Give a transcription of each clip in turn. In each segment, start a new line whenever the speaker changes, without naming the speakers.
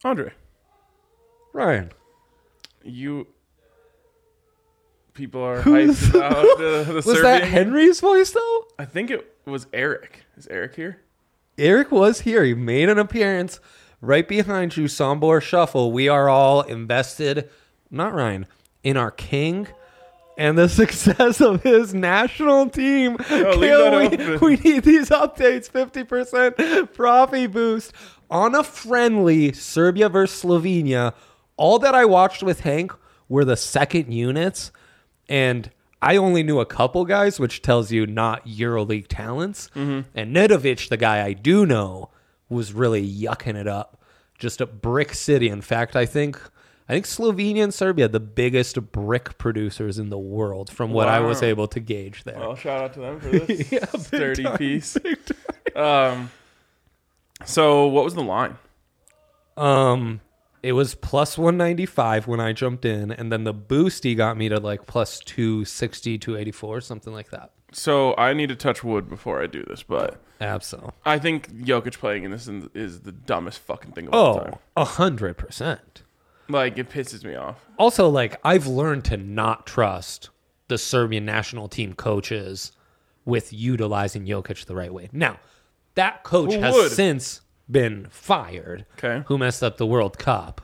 Andre.
Ryan.
People are hyped about the
Was
Serbian
that
game.
Henry's voice, though?
I think it was Eric. Is Eric here?
Eric was here. He made an appearance right behind you, Sombor Shuffle. We are all invested, not Ryan, in our king and the success of his national team. We need these updates. 50% profit boost on a friendly Serbia versus Slovenia. All that I watched with Hank were the second units, and I only knew a couple guys, which tells you not EuroLeague talents. Mm-hmm. And Nedovic, the guy I do know, was really yucking it up. Just a brick city. In fact, I think Slovenia and Serbia, the biggest brick producers in the world, from what I was able to gauge there.
Well, shout out to them for this sturdy piece.
Big time.
So what was the line?
It was plus 195 when I jumped in, and then the boosty got me to like plus 260, 284, something like that.
So I need to touch wood before I do this, but
Absolutely.
I think Jokic playing in this is the dumbest fucking thing of all time.
100%.
Like, it pisses me off.
Also, like, I've learned to not trust the Serbian national team coaches with utilizing Jokic the right way. Now, that coach has since been fired.
Okay.
Who messed up the World Cup.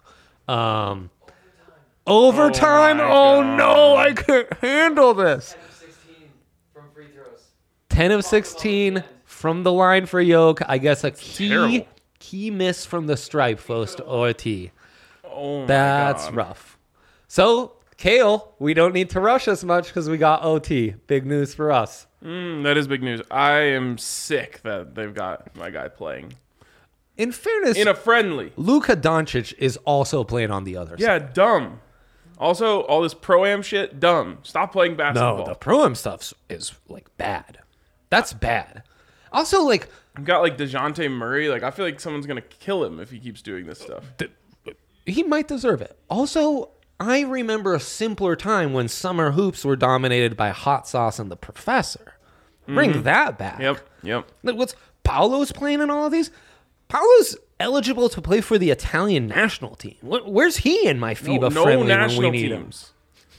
Overtime? Oh no, I can't handle this. 10 of 16 from the line for Yoke. I guess a key miss from the stripe forced OT.
Oh my
That's
God.
rough. So, Kale, we don't need to rush as much because we got OT. Big news for us.
That is big news. I am sick that they've got my guy playing.
In fairness,
In a friendly.
Luka Doncic is also playing on the other side.
Yeah, dumb. Also, all this pro-am shit, dumb. Stop playing basketball.
No, the pro-am stuff is, like, bad. That's bad. Also, like...
I've got, like, DeJounte Murray. Like, I feel like someone's going to kill him if he keeps doing this stuff.
He might deserve it. Also, I remember a simpler time when summer hoops were dominated by Hot Sauce and the Professor. Bring that back.
Yep.
Like, what's Paolo's playing in all of these? Paolo's eligible to play for the Italian national team. Where's he in my FIBA
No
friendly when
national
we need
teams.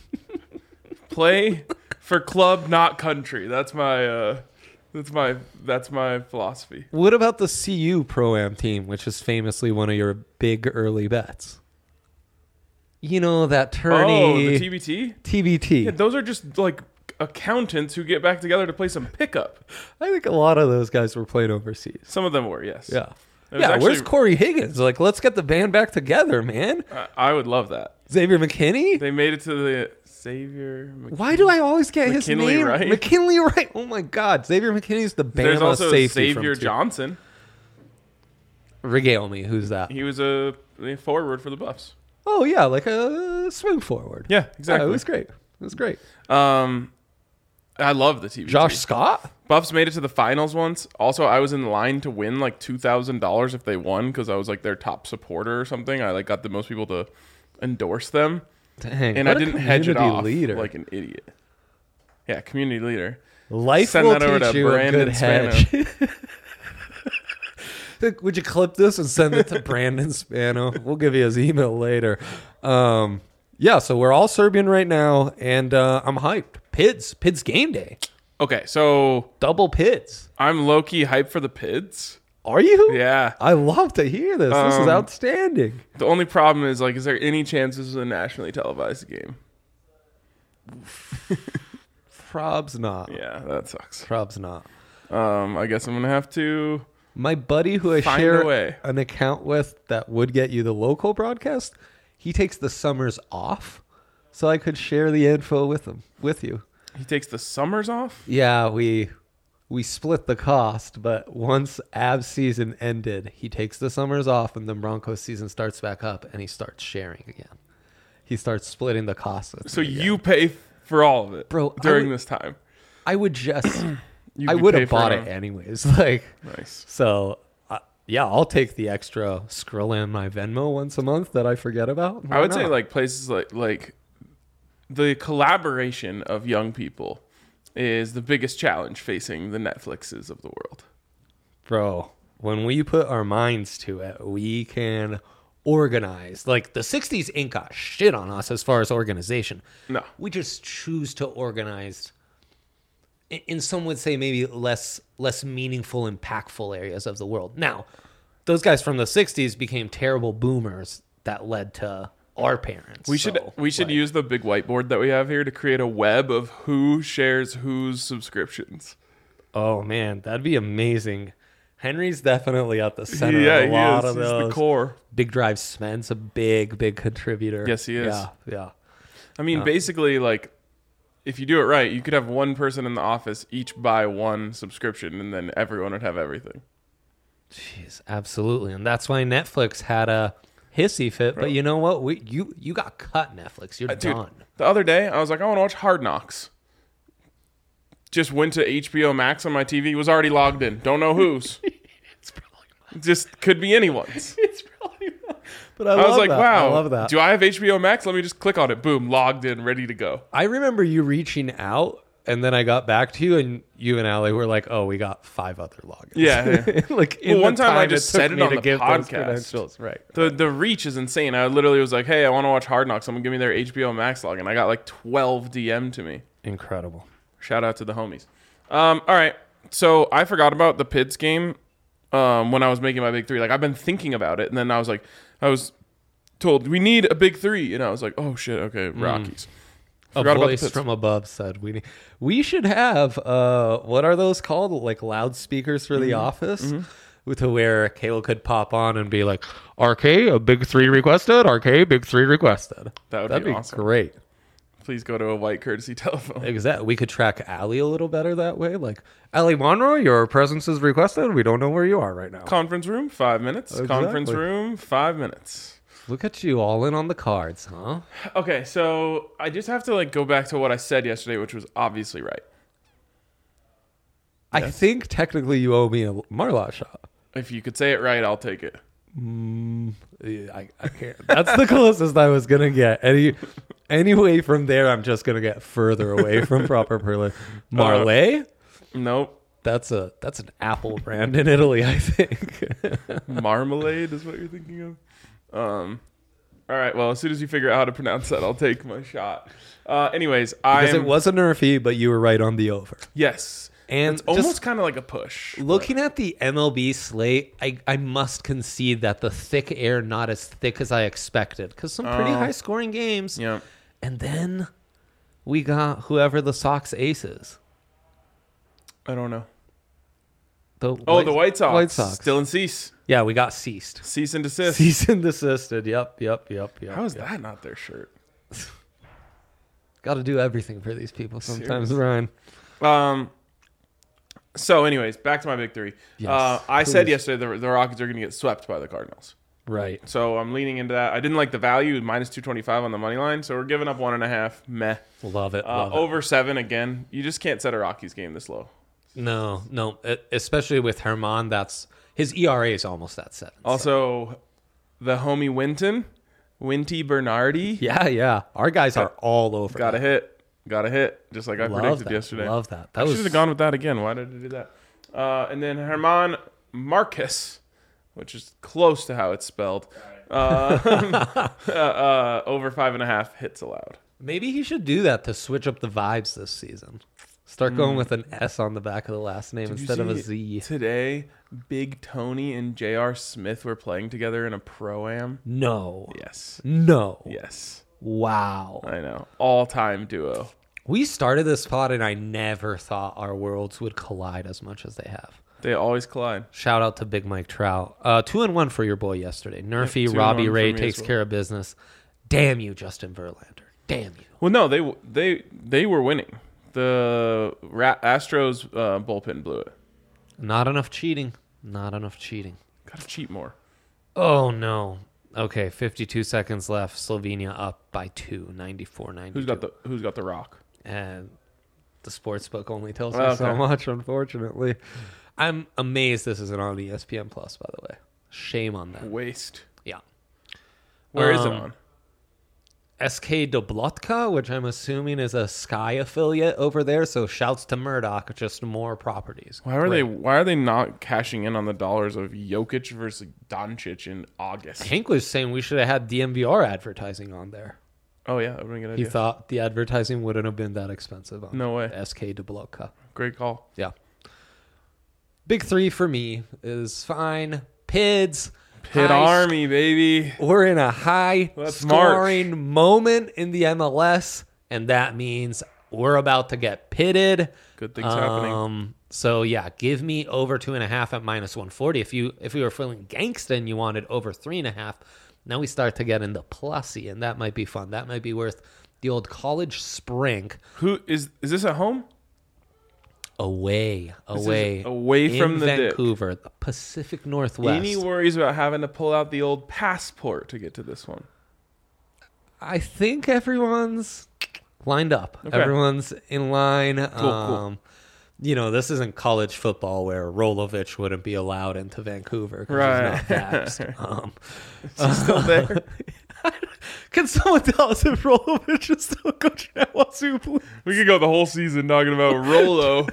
Play for club, not country. That's my philosophy.
him? What about the CU Pro-Am team, which is famously one of your big early bets? You know, that tourney...
Oh, the TBT?
TBT.
Yeah, those are just, like, accountants who get back together to play some pickup.
I think a lot of those guys were playing overseas.
Some of them were, yes.
Yeah.
It was
Yeah,
actually-
where's Corey Higgins? Like, let's get the band back together, man.
I would love that.
Xavier McKinney?
They made it to the Xavier McKinney.
Why do I always get his
McKinley
name?
Wright?
McKinley Wright. Oh, my God. Xavier McKinney's the
There's
Bama
also
safety
Xavier
from
Johnson.
Regale me. Who's that?
He was a forward for the Buffs.
Oh, yeah, like a swing forward.
Yeah, exactly.
Yeah, it was great. It was great.
I love the TV.
Josh Scott?
Buffs made it to the finals once. Also, I was in line to win like $2,000 if they won because I was like their top supporter or something. I like got the most people to endorse them,
Dang,
and
what
I
a
didn't hedge it
community
off
leader.
like an idiot. Yeah, community leader.
Life
Send
will
that over
teach
to
you a
Brandon
good hedge. Would you clip this and send it to Brandon Spano? We'll give you his email later. Yeah, so we're all Serbian right now, and I'm hyped. Pids game day.
Okay, so
Double Pids.
I'm low-key hyped for the Pids.
Are you?
Yeah.
I love to hear this. This is outstanding.
The only problem is, like, is there any chance this is a nationally televised game?
Probs not.
Yeah, that sucks.
Probs not.
I guess I'm going to have to...
My buddy who I
Find a
share
way.
an account with that would get you the local broadcast, he takes the summers off, so I could share the info with you.
He takes the summers off?
Yeah, we split the cost, but once Avs season ended, he takes the summers off, and then Broncos season starts back up, and he starts sharing again. He starts splitting the cost with
So
me again.
you pay for all of it,
Bro,
during this time.
I would just...
You
I
could
would
pay
have
for
bought
it.
it anyways. Like,
Nice.
so, yeah, I'll take the extra Skrilla in my Venmo once a month that I forget about.
I would say like places like the collaboration of young people is the biggest challenge facing the Netflixes of the world.
Bro, when we put our minds to it, we can organized. Like the 60s ain't got shit on us as far as organization.
No.
We just choose to organize in some would say maybe less meaningful, impactful areas of the world. Now, those guys from the 60s became terrible boomers that led to our parents.
We should use the big whiteboard that we have here to create a web of who shares whose subscriptions.
Oh man, that'd be amazing. Henry's definitely at the center
Yeah,
of a lot
he is.
of
He's
those.
the core.
Big Drive Sven's a big contributor.
Yes, he is.
Yeah.
I mean, basically, like, if you do it right, you could have one person in the office each buy one subscription, and then everyone would have everything.
Jeez, absolutely. And that's why Netflix had a hissy fit. But you know what? You got cut, Netflix. You're
Dude,
done.
the other day, I was like, I want to watch Hard Knocks. Just went to HBO Max on my TV. Was already logged in. Don't know whose.
It's probably not.
Just could be anyone's.
It's probably not. But
I was like,
that.
wow.
I love that.
Do I have HBO Max? Let me just click on it. Boom. Logged in. Ready to go.
I remember you reaching out, and then I got back to you, and you and Allie were like, "Oh, we got 5 other logins."
Yeah.
Like
Well, one time I
it
just
took
said it
me
on
to
the
give those
podcast.
credentials. Right.
The reach is insane. I literally was like, hey, I want to watch Hard Knocks. Someone give me their HBO Max login. I got like 12 DM to me.
Incredible.
Shout out to the homies. All right. So I forgot about the Pids game when I was making my big three. Like, I've been thinking about it. And then I was told, we need a big three. And I was like, oh, shit. Okay, Rockies. Forgot
A
about the
voice
Pids.
from above said, "We should have what are those called? Like loudspeakers for the office, to where Kayla could pop on and be like, RK, a big 3 requested. RK, big 3 requested.
That'd be awesome.
Great.
Please go to a white courtesy telephone.
Exactly. We could track Allie a little better that way. Like, Allie Monroe, your presence is requested. We don't know where you are right now.
Conference room, 5 minutes.
Exactly.
Conference room, 5 minutes.
Look at you all in on the cards, huh?
Okay, so I just have to like go back to what I said yesterday, which was obviously right.
I think technically you owe me a Marlot shot.
If you could say it right, I'll take it.
I can't. That's the closest I was gonna get. Anyway, from there, I'm just gonna get further away from proper Perla. Marley?
Nope.
That's an Apple brand in Italy, I think.
Marmalade is what you're thinking of. All right. Well, as soon as you figure out how to pronounce that, I'll take my shot. Anyways,
Because it was a nerfy, but you were right on the over.
Yes.
And
It's almost kind of like a push.
Looking at the MLB slate, I must concede that the thick air not as thick as I expected, because some pretty high scoring games.
Yeah.
And then we got whoever the Sox ace is.
I don't know.
The
White Sox.
White Sox.
Still in cease.
Yeah, we got ceased.
Cease and desist.
Cease and desisted. Yep.
How is that not their shirt?
Got to do everything for these people sometimes,
Seriously.
Ryan.
So, anyways, back to my big three.
Yes,
I said
please.
yesterday the Rockets are going to get swept by the Cardinals.
Right.
So I'm leaning into that. I didn't like the value, minus 225 on the money line. So we're giving up 1.5. Meh.
Love it. Love it.
Over 7 again. You just can't set a Rockies game this low.
No. Especially with Herman, his ERA is almost at 7.
Also, the homie Winty Bernardi.
Yeah. Our guys are all over.
Got a hit. Just like I predicted
that.
yesterday.
Love that.
I should have gone with that again. Why did I do that? And then Herman Marcus, which is close to how it's spelled. Over 5.5 hits allowed.
Maybe he should do that to switch up the vibes this season. Start going with an S on the back of the last name instead of a Z.
Today, Big Tony and J.R. Smith were playing together in a pro-am.
No.
Yes.
Yes. Wow.
I know. All-time duo.
We started this pod and I never thought our worlds would collide as much as they have.
They always collide.
Shout out to Big Mike Trout. 2-1 for your boy yesterday. Nerfy,
2-1
Robbie
for
Ray
me
takes
as well.
care of business. Damn you, Justin Verlander. Damn you.
Well, no, they were winning. The Astros bullpen blew it.
Not enough cheating.
Gotta cheat more.
Oh, no. Okay, 52 seconds left. Slovenia up by 2, 94-92.
Who's got the rock?
And the sports book only tells
Okay.
me so much, unfortunately. I'm amazed this isn't on ESPN Plus, by the way. Shame on them.
Waste.
Yeah.
Where is it on?
SK Doblotka, which I'm assuming is a Sky affiliate over there. So shouts to Murdoch, just more properties.
Why are they not cashing in on the dollars of Jokic versus Doncic in August?
Hank was saying we should have had DMVR advertising on there.
Oh yeah, that would be a good idea.
He thought the advertising wouldn't have been that expensive on
No way.
SK Doblotka.
Great call.
Yeah. Big 3 for me is fine. PIDs.
Pit Army, baby.
We're in a high
Let's
scoring moment in the MLS, and that means we're about to get pitted.
Good things happening.
So yeah, give me over 2.5 at -140. If we were feeling gangsta and you wanted over 3.5, now we start to get into plussy, and that might be fun. That might be worth the old college sprink.
Who is this at home?
Away
from
in
the dick.
Vancouver, the Pacific Northwest.
Any worries about having to pull out the old passport to get to this one?
I think everyone's lined up.
Okay.
Everyone's in line.
Cool.
You know, this isn't college football where Rolovich wouldn't be allowed into Vancouver because
Right.
he's not vaxxed.
Is he still there?
Can someone tell us if Rolovich is still coaching at Wazoo, please?
We could go the whole season talking about Rolo.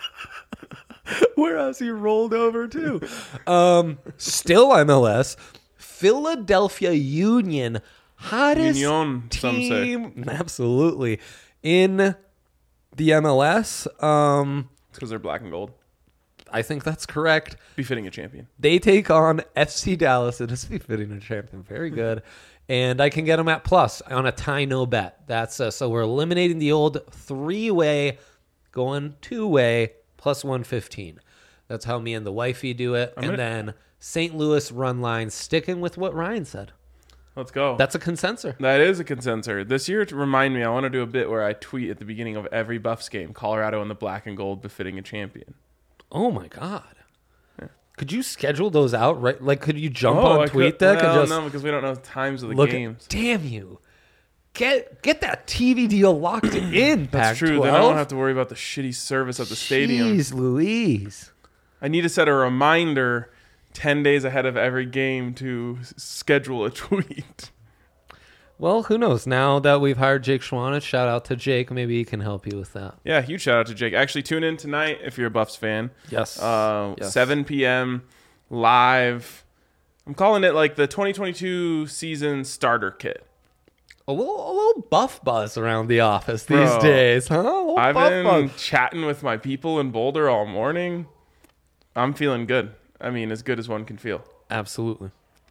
Where has he rolled over to? Still MLS. Philadelphia Union. Hottest
Union, some say.
team. Absolutely. In the MLS.
It's because they're black and gold.
I think that's correct.
Befitting a champion.
They take on FC Dallas. It is befitting a champion. Very good. And I can get them at plus on a tie no bet. That's so we're eliminating the old 3-way, going 2-way, plus 115. That's how me and the wifey do it. Then St. Louis run line, sticking with what Ryan said.
Let's go.
That's a consensus.
That is a consensus. This year, to remind me, I want to do a bit where I tweet at the beginning of every Buffs game, Colorado in the black and gold befitting a champion.
Oh, my God. Could you schedule those out, right? Like, could you jump
I
on TweetDeck and just
no, because we don't know the times of the
look
games.
Damn you. Get that TV deal locked in,
That's true. Then I don't have to worry about the shitty service at the stadium.
Jeez Louise.
I need to set a reminder 10 days ahead of every game to schedule a tweet.
Well, who knows? Now that we've hired Jake Schwanitz, shout out to Jake. Maybe he can help you with that.
Yeah, huge shout out to Jake. Actually, tune in tonight if you're a Buffs fan.
Yes.
7 p.m. live. I'm calling it like the 2022 season starter kit.
A little buff buzz around the office these
Bro,
days, huh?
I've been chatting with my people in Boulder all morning. I'm feeling good. I mean, as good as one can feel.
Absolutely.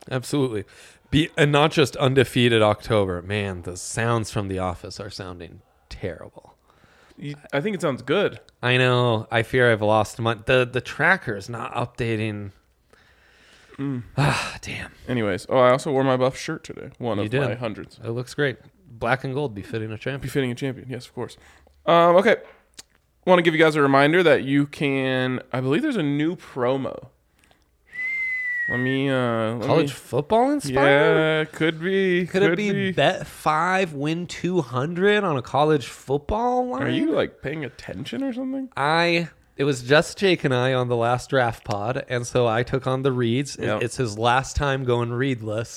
And not just undefeated October. Man, the sounds from the office are sounding terrible.
I think it sounds good.
I know. I fear I've lost money. The tracker's not updating. Damn.
Anyways, I also wore my Buff shirt today. One
You
of
did.
my hundreds.
It looks great. Black and gold befitting a champion.
Befitting a champion, yes, of course. Okay. Want to give you guys a reminder that you can, I believe there's a new promo.
College football inspired?
Yeah, could be.
Could it be bet 5, win 200 on a college football line?
Are you like paying attention or something?
It was just Jake and I on the last draft pod, and so I took on the reads.
Yep.
It's his last time going readless,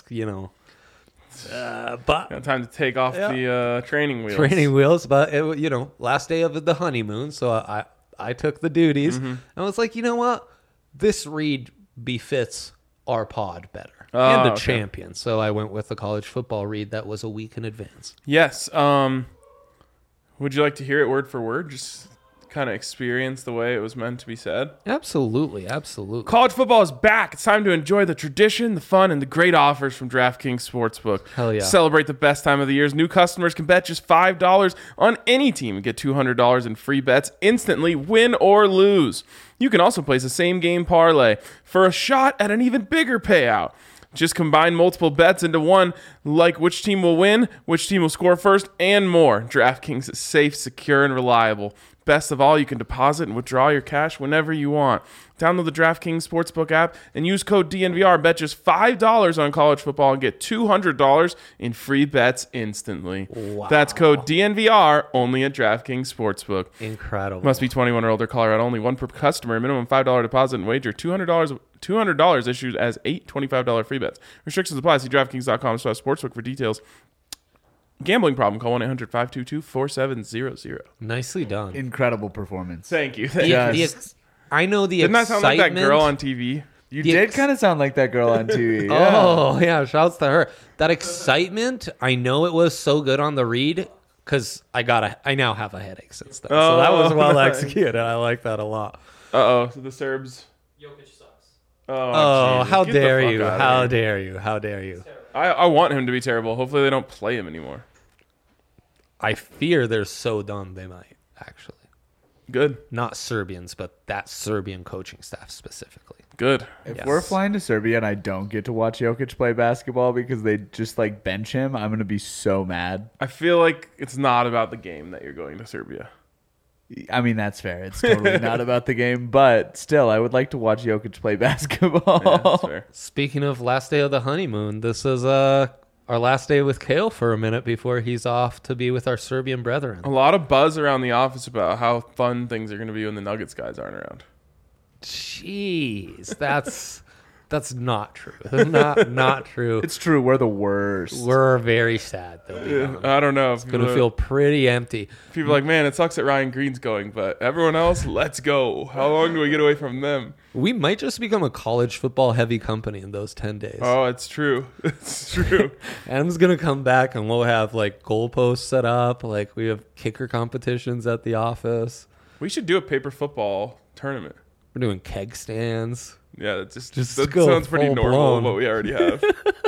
but
Got time to take off the training wheels.
training wheels. But last day of the honeymoon, so I took the duties.
Mm-hmm.
I was like, you know what, this read befits our pod better
Oh,
and the
okay.
champion. So I went with the college football read that was a week in advance.
Yes. Would you like to hear it word for word? Just kind of experience the way it was meant to be said.
Absolutely.
College football is back. It's time to enjoy the tradition, the fun, and the great offers from DraftKings Sportsbook.
Hell yeah.
Celebrate the best time of the year. New customers can bet just $5 on any team and get $200 in free bets instantly, win or lose. You can also place a same-game parlay for a shot at an even bigger payout. Just combine multiple bets into one, like which team will win, which team will score first, and more. DraftKings is safe, secure, and reliable. Best of all, you can deposit and withdraw your cash whenever you want. Download the DraftKings Sportsbook app and use code DNVR. Bet just $5 on college football and get $200 in free bets instantly.
Wow.
That's code DNVR only at DraftKings Sportsbook.
Incredible.
Must be 21 or older, Colorado only. One per customer. Minimum $5 deposit and wager. $200 issued as 8 $25 free bets. Restrictions apply. See DraftKings.com/sportsbook for details. gambling problem, call 1-800-522-4700.
Nicely done.
Incredible performance.
Thank you.
I know the
Didn't that
excitement.
sound like that girl on TV?
You did kind of sound like that girl on TV. Yeah.
Oh, yeah. Shouts to her. That excitement, I know it was so good on the read because I now have a headache since then. So that was well executed. I like that a lot.
So the Serbs.
Jokic sucks.
Oh,
Jesus.
how
Get the
dare
fuck
you?
outta
How
here.
dare you? How dare you?
I want him to be terrible. Hopefully they don't play him anymore.
I fear they're so done they might, actually.
Good.
Not Serbians, but that Serbian coaching staff specifically.
Good.
If
Yes.
we're flying to Serbia and I don't get to watch Jokic play basketball because they just like bench him, I'm going to be so mad.
I feel like it's not about the game that you're going to Serbia.
I mean, that's fair. It's totally not about the game, but still, I would like to watch Jokic play basketball.
Yeah, that's fair.
Speaking of last day of the honeymoon, this is our last day with Kale for a minute before he's off to be with our Serbian brethren.
A lot of buzz around the office about how fun things are going to be when the Nuggets guys aren't around.
Jeez, that's not true. Not true.
It's true. We're the worst.
We're very sad they'll be gone.
I don't know. If
It's gonna feel pretty empty.
people are like, man, it sucks that Ryan Green's going, but everyone else, let's go. How long do we get away from them?
We might just become a college football heavy company in those 10 days.
Oh, it's true. It's true.
Adam's gonna come back and we'll have like goalposts set up. Like we have kicker competitions at the office.
We should do a paper football tournament.
We're doing keg stands.
Yeah, that
Just
that
go
sounds pretty
full
normal,
blown.
what we already have.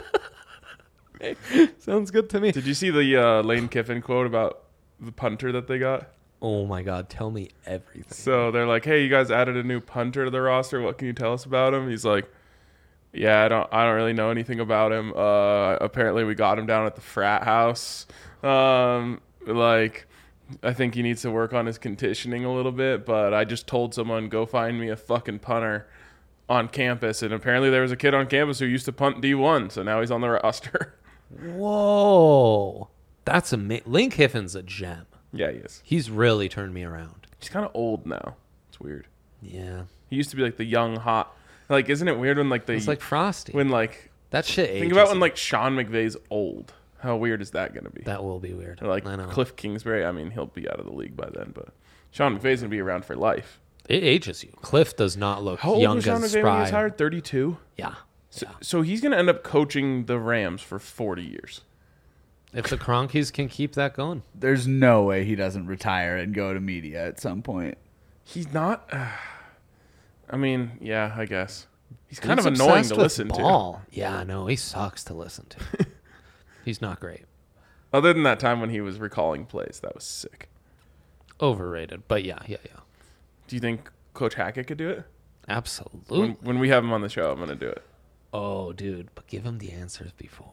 Sounds good to me.
Did you see the Lane Kiffin quote about the punter that they got?
Oh my God, tell me everything.
So they're like, "Hey, you guys added a new punter to the roster. What can you tell us about him?" He's like, "Yeah, I don't really know anything about him. Apparently, we got him down at the frat house. Like, I think he needs to work on his conditioning a little bit. But I just told someone, go find me a fucking punter on campus, and apparently there was a kid on campus who used to punt D1, so now he's on the roster."
Whoa, that's amazing. Lane Kiffin's a gem.
Yeah, he is.
He's really turned me around.
He's kind of old now. It's weird.
Yeah,
He used to be like the young hot. Like, isn't it weird when like
it's like Frosty.
when like
That shit.
think
ages
about when
you.
like Sean McVay's old. How weird is that going to be?
That will be weird.
Or like
I know.
Cliff Kingsbury. I mean, he'll be out of the league by then, but Sean McVay's going to be around for life.
It ages you. Cliff does not look
How old
young
was Sean
as
McVay when he was
spry.
hired? 32.
Yeah.
So he's going to end up coaching the Rams for 40 years.
If the Cronkies can keep that going.
There's no way he doesn't retire and go to media at some point.
He's not. I mean, yeah, I guess he's kind of
He's
annoying
obsessed
to
with
listen to.
ball. Yeah, no, he sucks to listen to. He's not great.
Other than that time when he was recalling plays, that was sick.
Overrated. But yeah.
Do you think Coach Hackett could do it?
Absolutely.
When we have him on the show, I'm going to do it.
Oh, dude, but give him the answers before.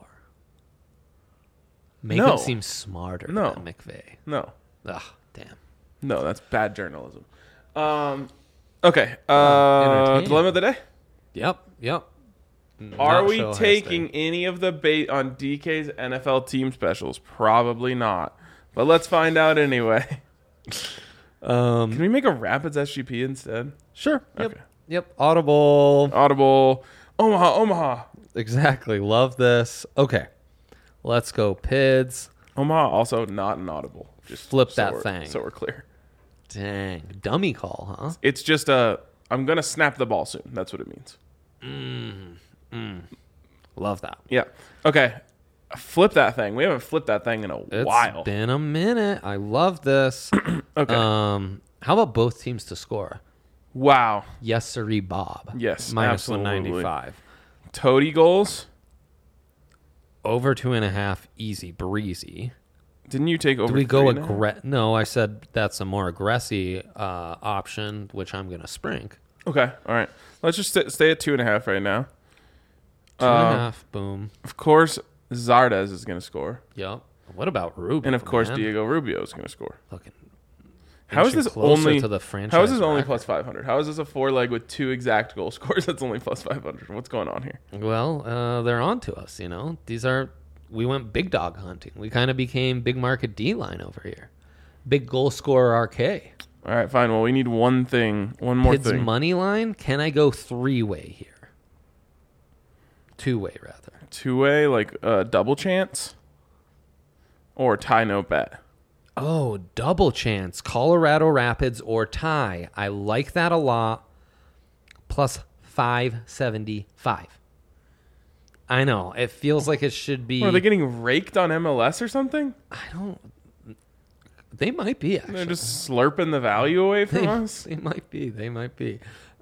Make
No.
him seem smarter
No.
than McVay.
No.
Ugh, damn.
No, that's bad journalism. Okay.
entertaining.
Dilemma of the day.
Yep.
Are
Not
we
show
taking
history.
any of the bait on DK's NFL team specials? Probably not. But let's find out anyway. Can we make a Rapids SGP instead?
Sure. Yep.
Okay.
Yep. Audible.
Audible. Omaha.
Exactly. Love this. Okay. Let's go, Pids.
Omaha also not an Audible. Just
Flip
so
that
we're-
thing.
So we're clear.
Dang. Dummy call, huh?
It's just I'm going to snap the ball soon. That's what it means.
Love that.
Yeah. Okay. Flip that thing. We haven't flipped that thing in a
It's
while.
been a minute. I love this.
Okay.
How about both teams to score?
Wow.
Yes, sirree, Bob.
Yes,
Minus
absolutely.
195.
Toady goals.
Over 2.5, easy breezy.
Didn't you take over?
Do we go
3.5?
No, I said that's a more aggressive option, which I'm gonna sprink.
Okay. All right. Let's just stay at 2.5 right now.
2.5, boom.
Of course, Zardes is going to score,
Yep. What about Rubio?
and of course,
man?
Diego Rubio is going to score.
Looking.
How is
inching
this
closer
only
to the franchise?
How is this only
record.
plus 500? How is this a 4-leg with 2 exact goal scores that's only plus 500? What's going on here?
Well, they're on to us. You know, we went big dog hunting. We kind of became big market D line over here. Big goal scorer RK.
All right, fine. Well, we need one more
Pids
thing.
money line. Can I go 3-way here? 2-way rather.
2-way, like double chance. or tie no bet.
Oh, double chance. Colorado Rapids or tie. I like that a lot. Plus 575. I know. It feels like it should be.
Are they getting raked on MLS or something?
I don't. They might be, actually.
They're just slurping the value away from us?
They might be. They might be.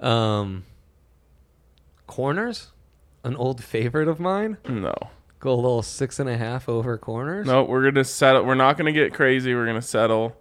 Corners? An old favorite of mine?
No.
Go a little 6.5 over corners?
No, we're going to settle. We're not going to get crazy. We're going to settle.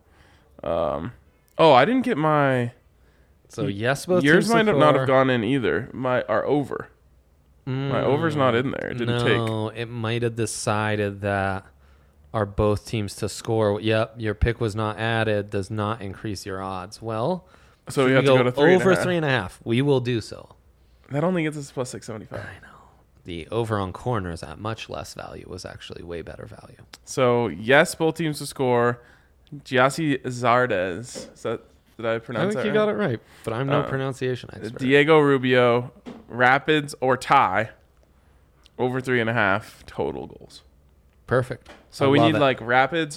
I didn't get my...
So, yes, both
Yours
teams
might
to
not
score.
have gone in either. Our over. My over's not in there. It didn't take.
No, it might have decided that are both teams to score. Yep, your pick was not added. Does not increase your odds. Well,
So we
should
have to go to 3.5.
over 3.5. We will do so.
That only gets us plus 675.
I know. The over on corners at much less value was actually way better value.
So, yes, both teams to score. Giassi Zardes. Did I
I
pronounce
think
that
you got it right, but I'm no pronunciation expert.
Diego Rubio, Rapids or tie, over 3.5 total goals.
Perfect.
So
I
we
love
need
it.
like Rapids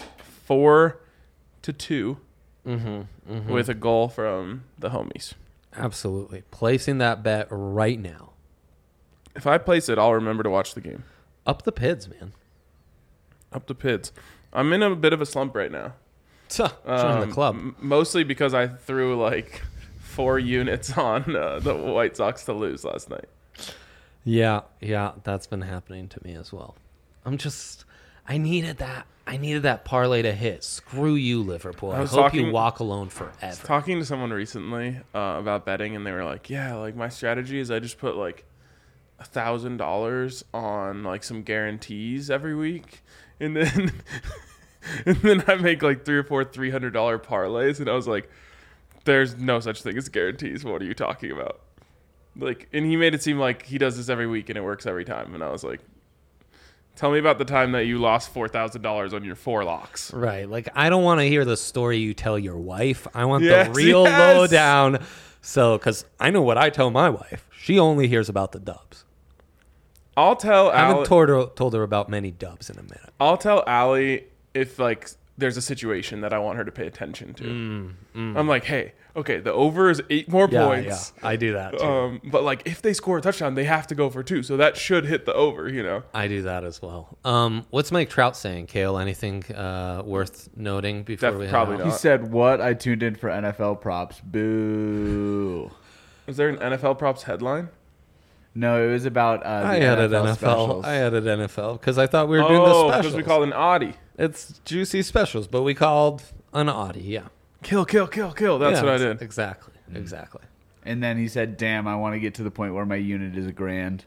4-2
Mm-hmm.
with a goal from the homies.
Absolutely. Placing that bet right now.
If I place it, I'll remember to watch the game.
Up the Pids, man.
Up the Pids. I'm in a bit of a slump right now.
Join the club.
Mostly because I threw like 4 units on the White Sox to lose last night.
Yeah, that's been happening to me as well. I needed that parlay to hit. Screw you, Liverpool. I hope you walk alone forever.
Talking to someone recently about betting, and they were like, "Yeah, like my strategy is I just put like $1,000 on like some guarantees every week, and then and then I make like 3 or 4 $300 parlays." And I was like, "There's no such thing as guarantees. What are you talking about?" Like, and he made it seem like he does this every week and it works every time. And I was like, tell me about the time that you lost $4,000 on your 4 locks.
Right. Like, I don't want to hear the story you tell your wife. I want
Yes,
the real
yes.
lowdown. So, because I know what I tell my wife. She only hears about the dubs.
I'll tell
I haven't
Allie,
told her about many dubs in a minute.
I'll tell Allie if like there's a situation that I want her to pay attention to. I'm like, hey, okay, the over is 8 more points.
Yeah, I do that too.
But like if they score a touchdown, they have to go for 2. So that should hit the over, you know.
I do that as well. What's Mike Trout saying, Kale? Anything worth noting before we head
Probably
out?
not.
He said, "What? I tuned in for NFL props. Boo."
Is there an NFL props headline?
No, it was about the
I added NFL.
specials.
I added NFL because I thought we were doing the
Oh,
specials.
because we called an Audi.
It's juicy specials, but we called an Audi. Yeah,
Kill. That's
Yeah,
what I did.
Exactly.
And then he said, "Damn, I want to get to the point where my unit is $1,000."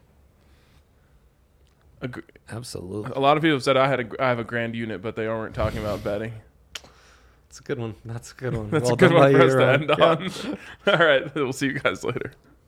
Absolutely.
A lot of people have said I have a grand unit, but they weren't talking about betting.
It's a good one. That's a good one.
That's
Well
a good
done
one
by
for us
you,
to
Ron.
end on. All right, we'll see you guys later.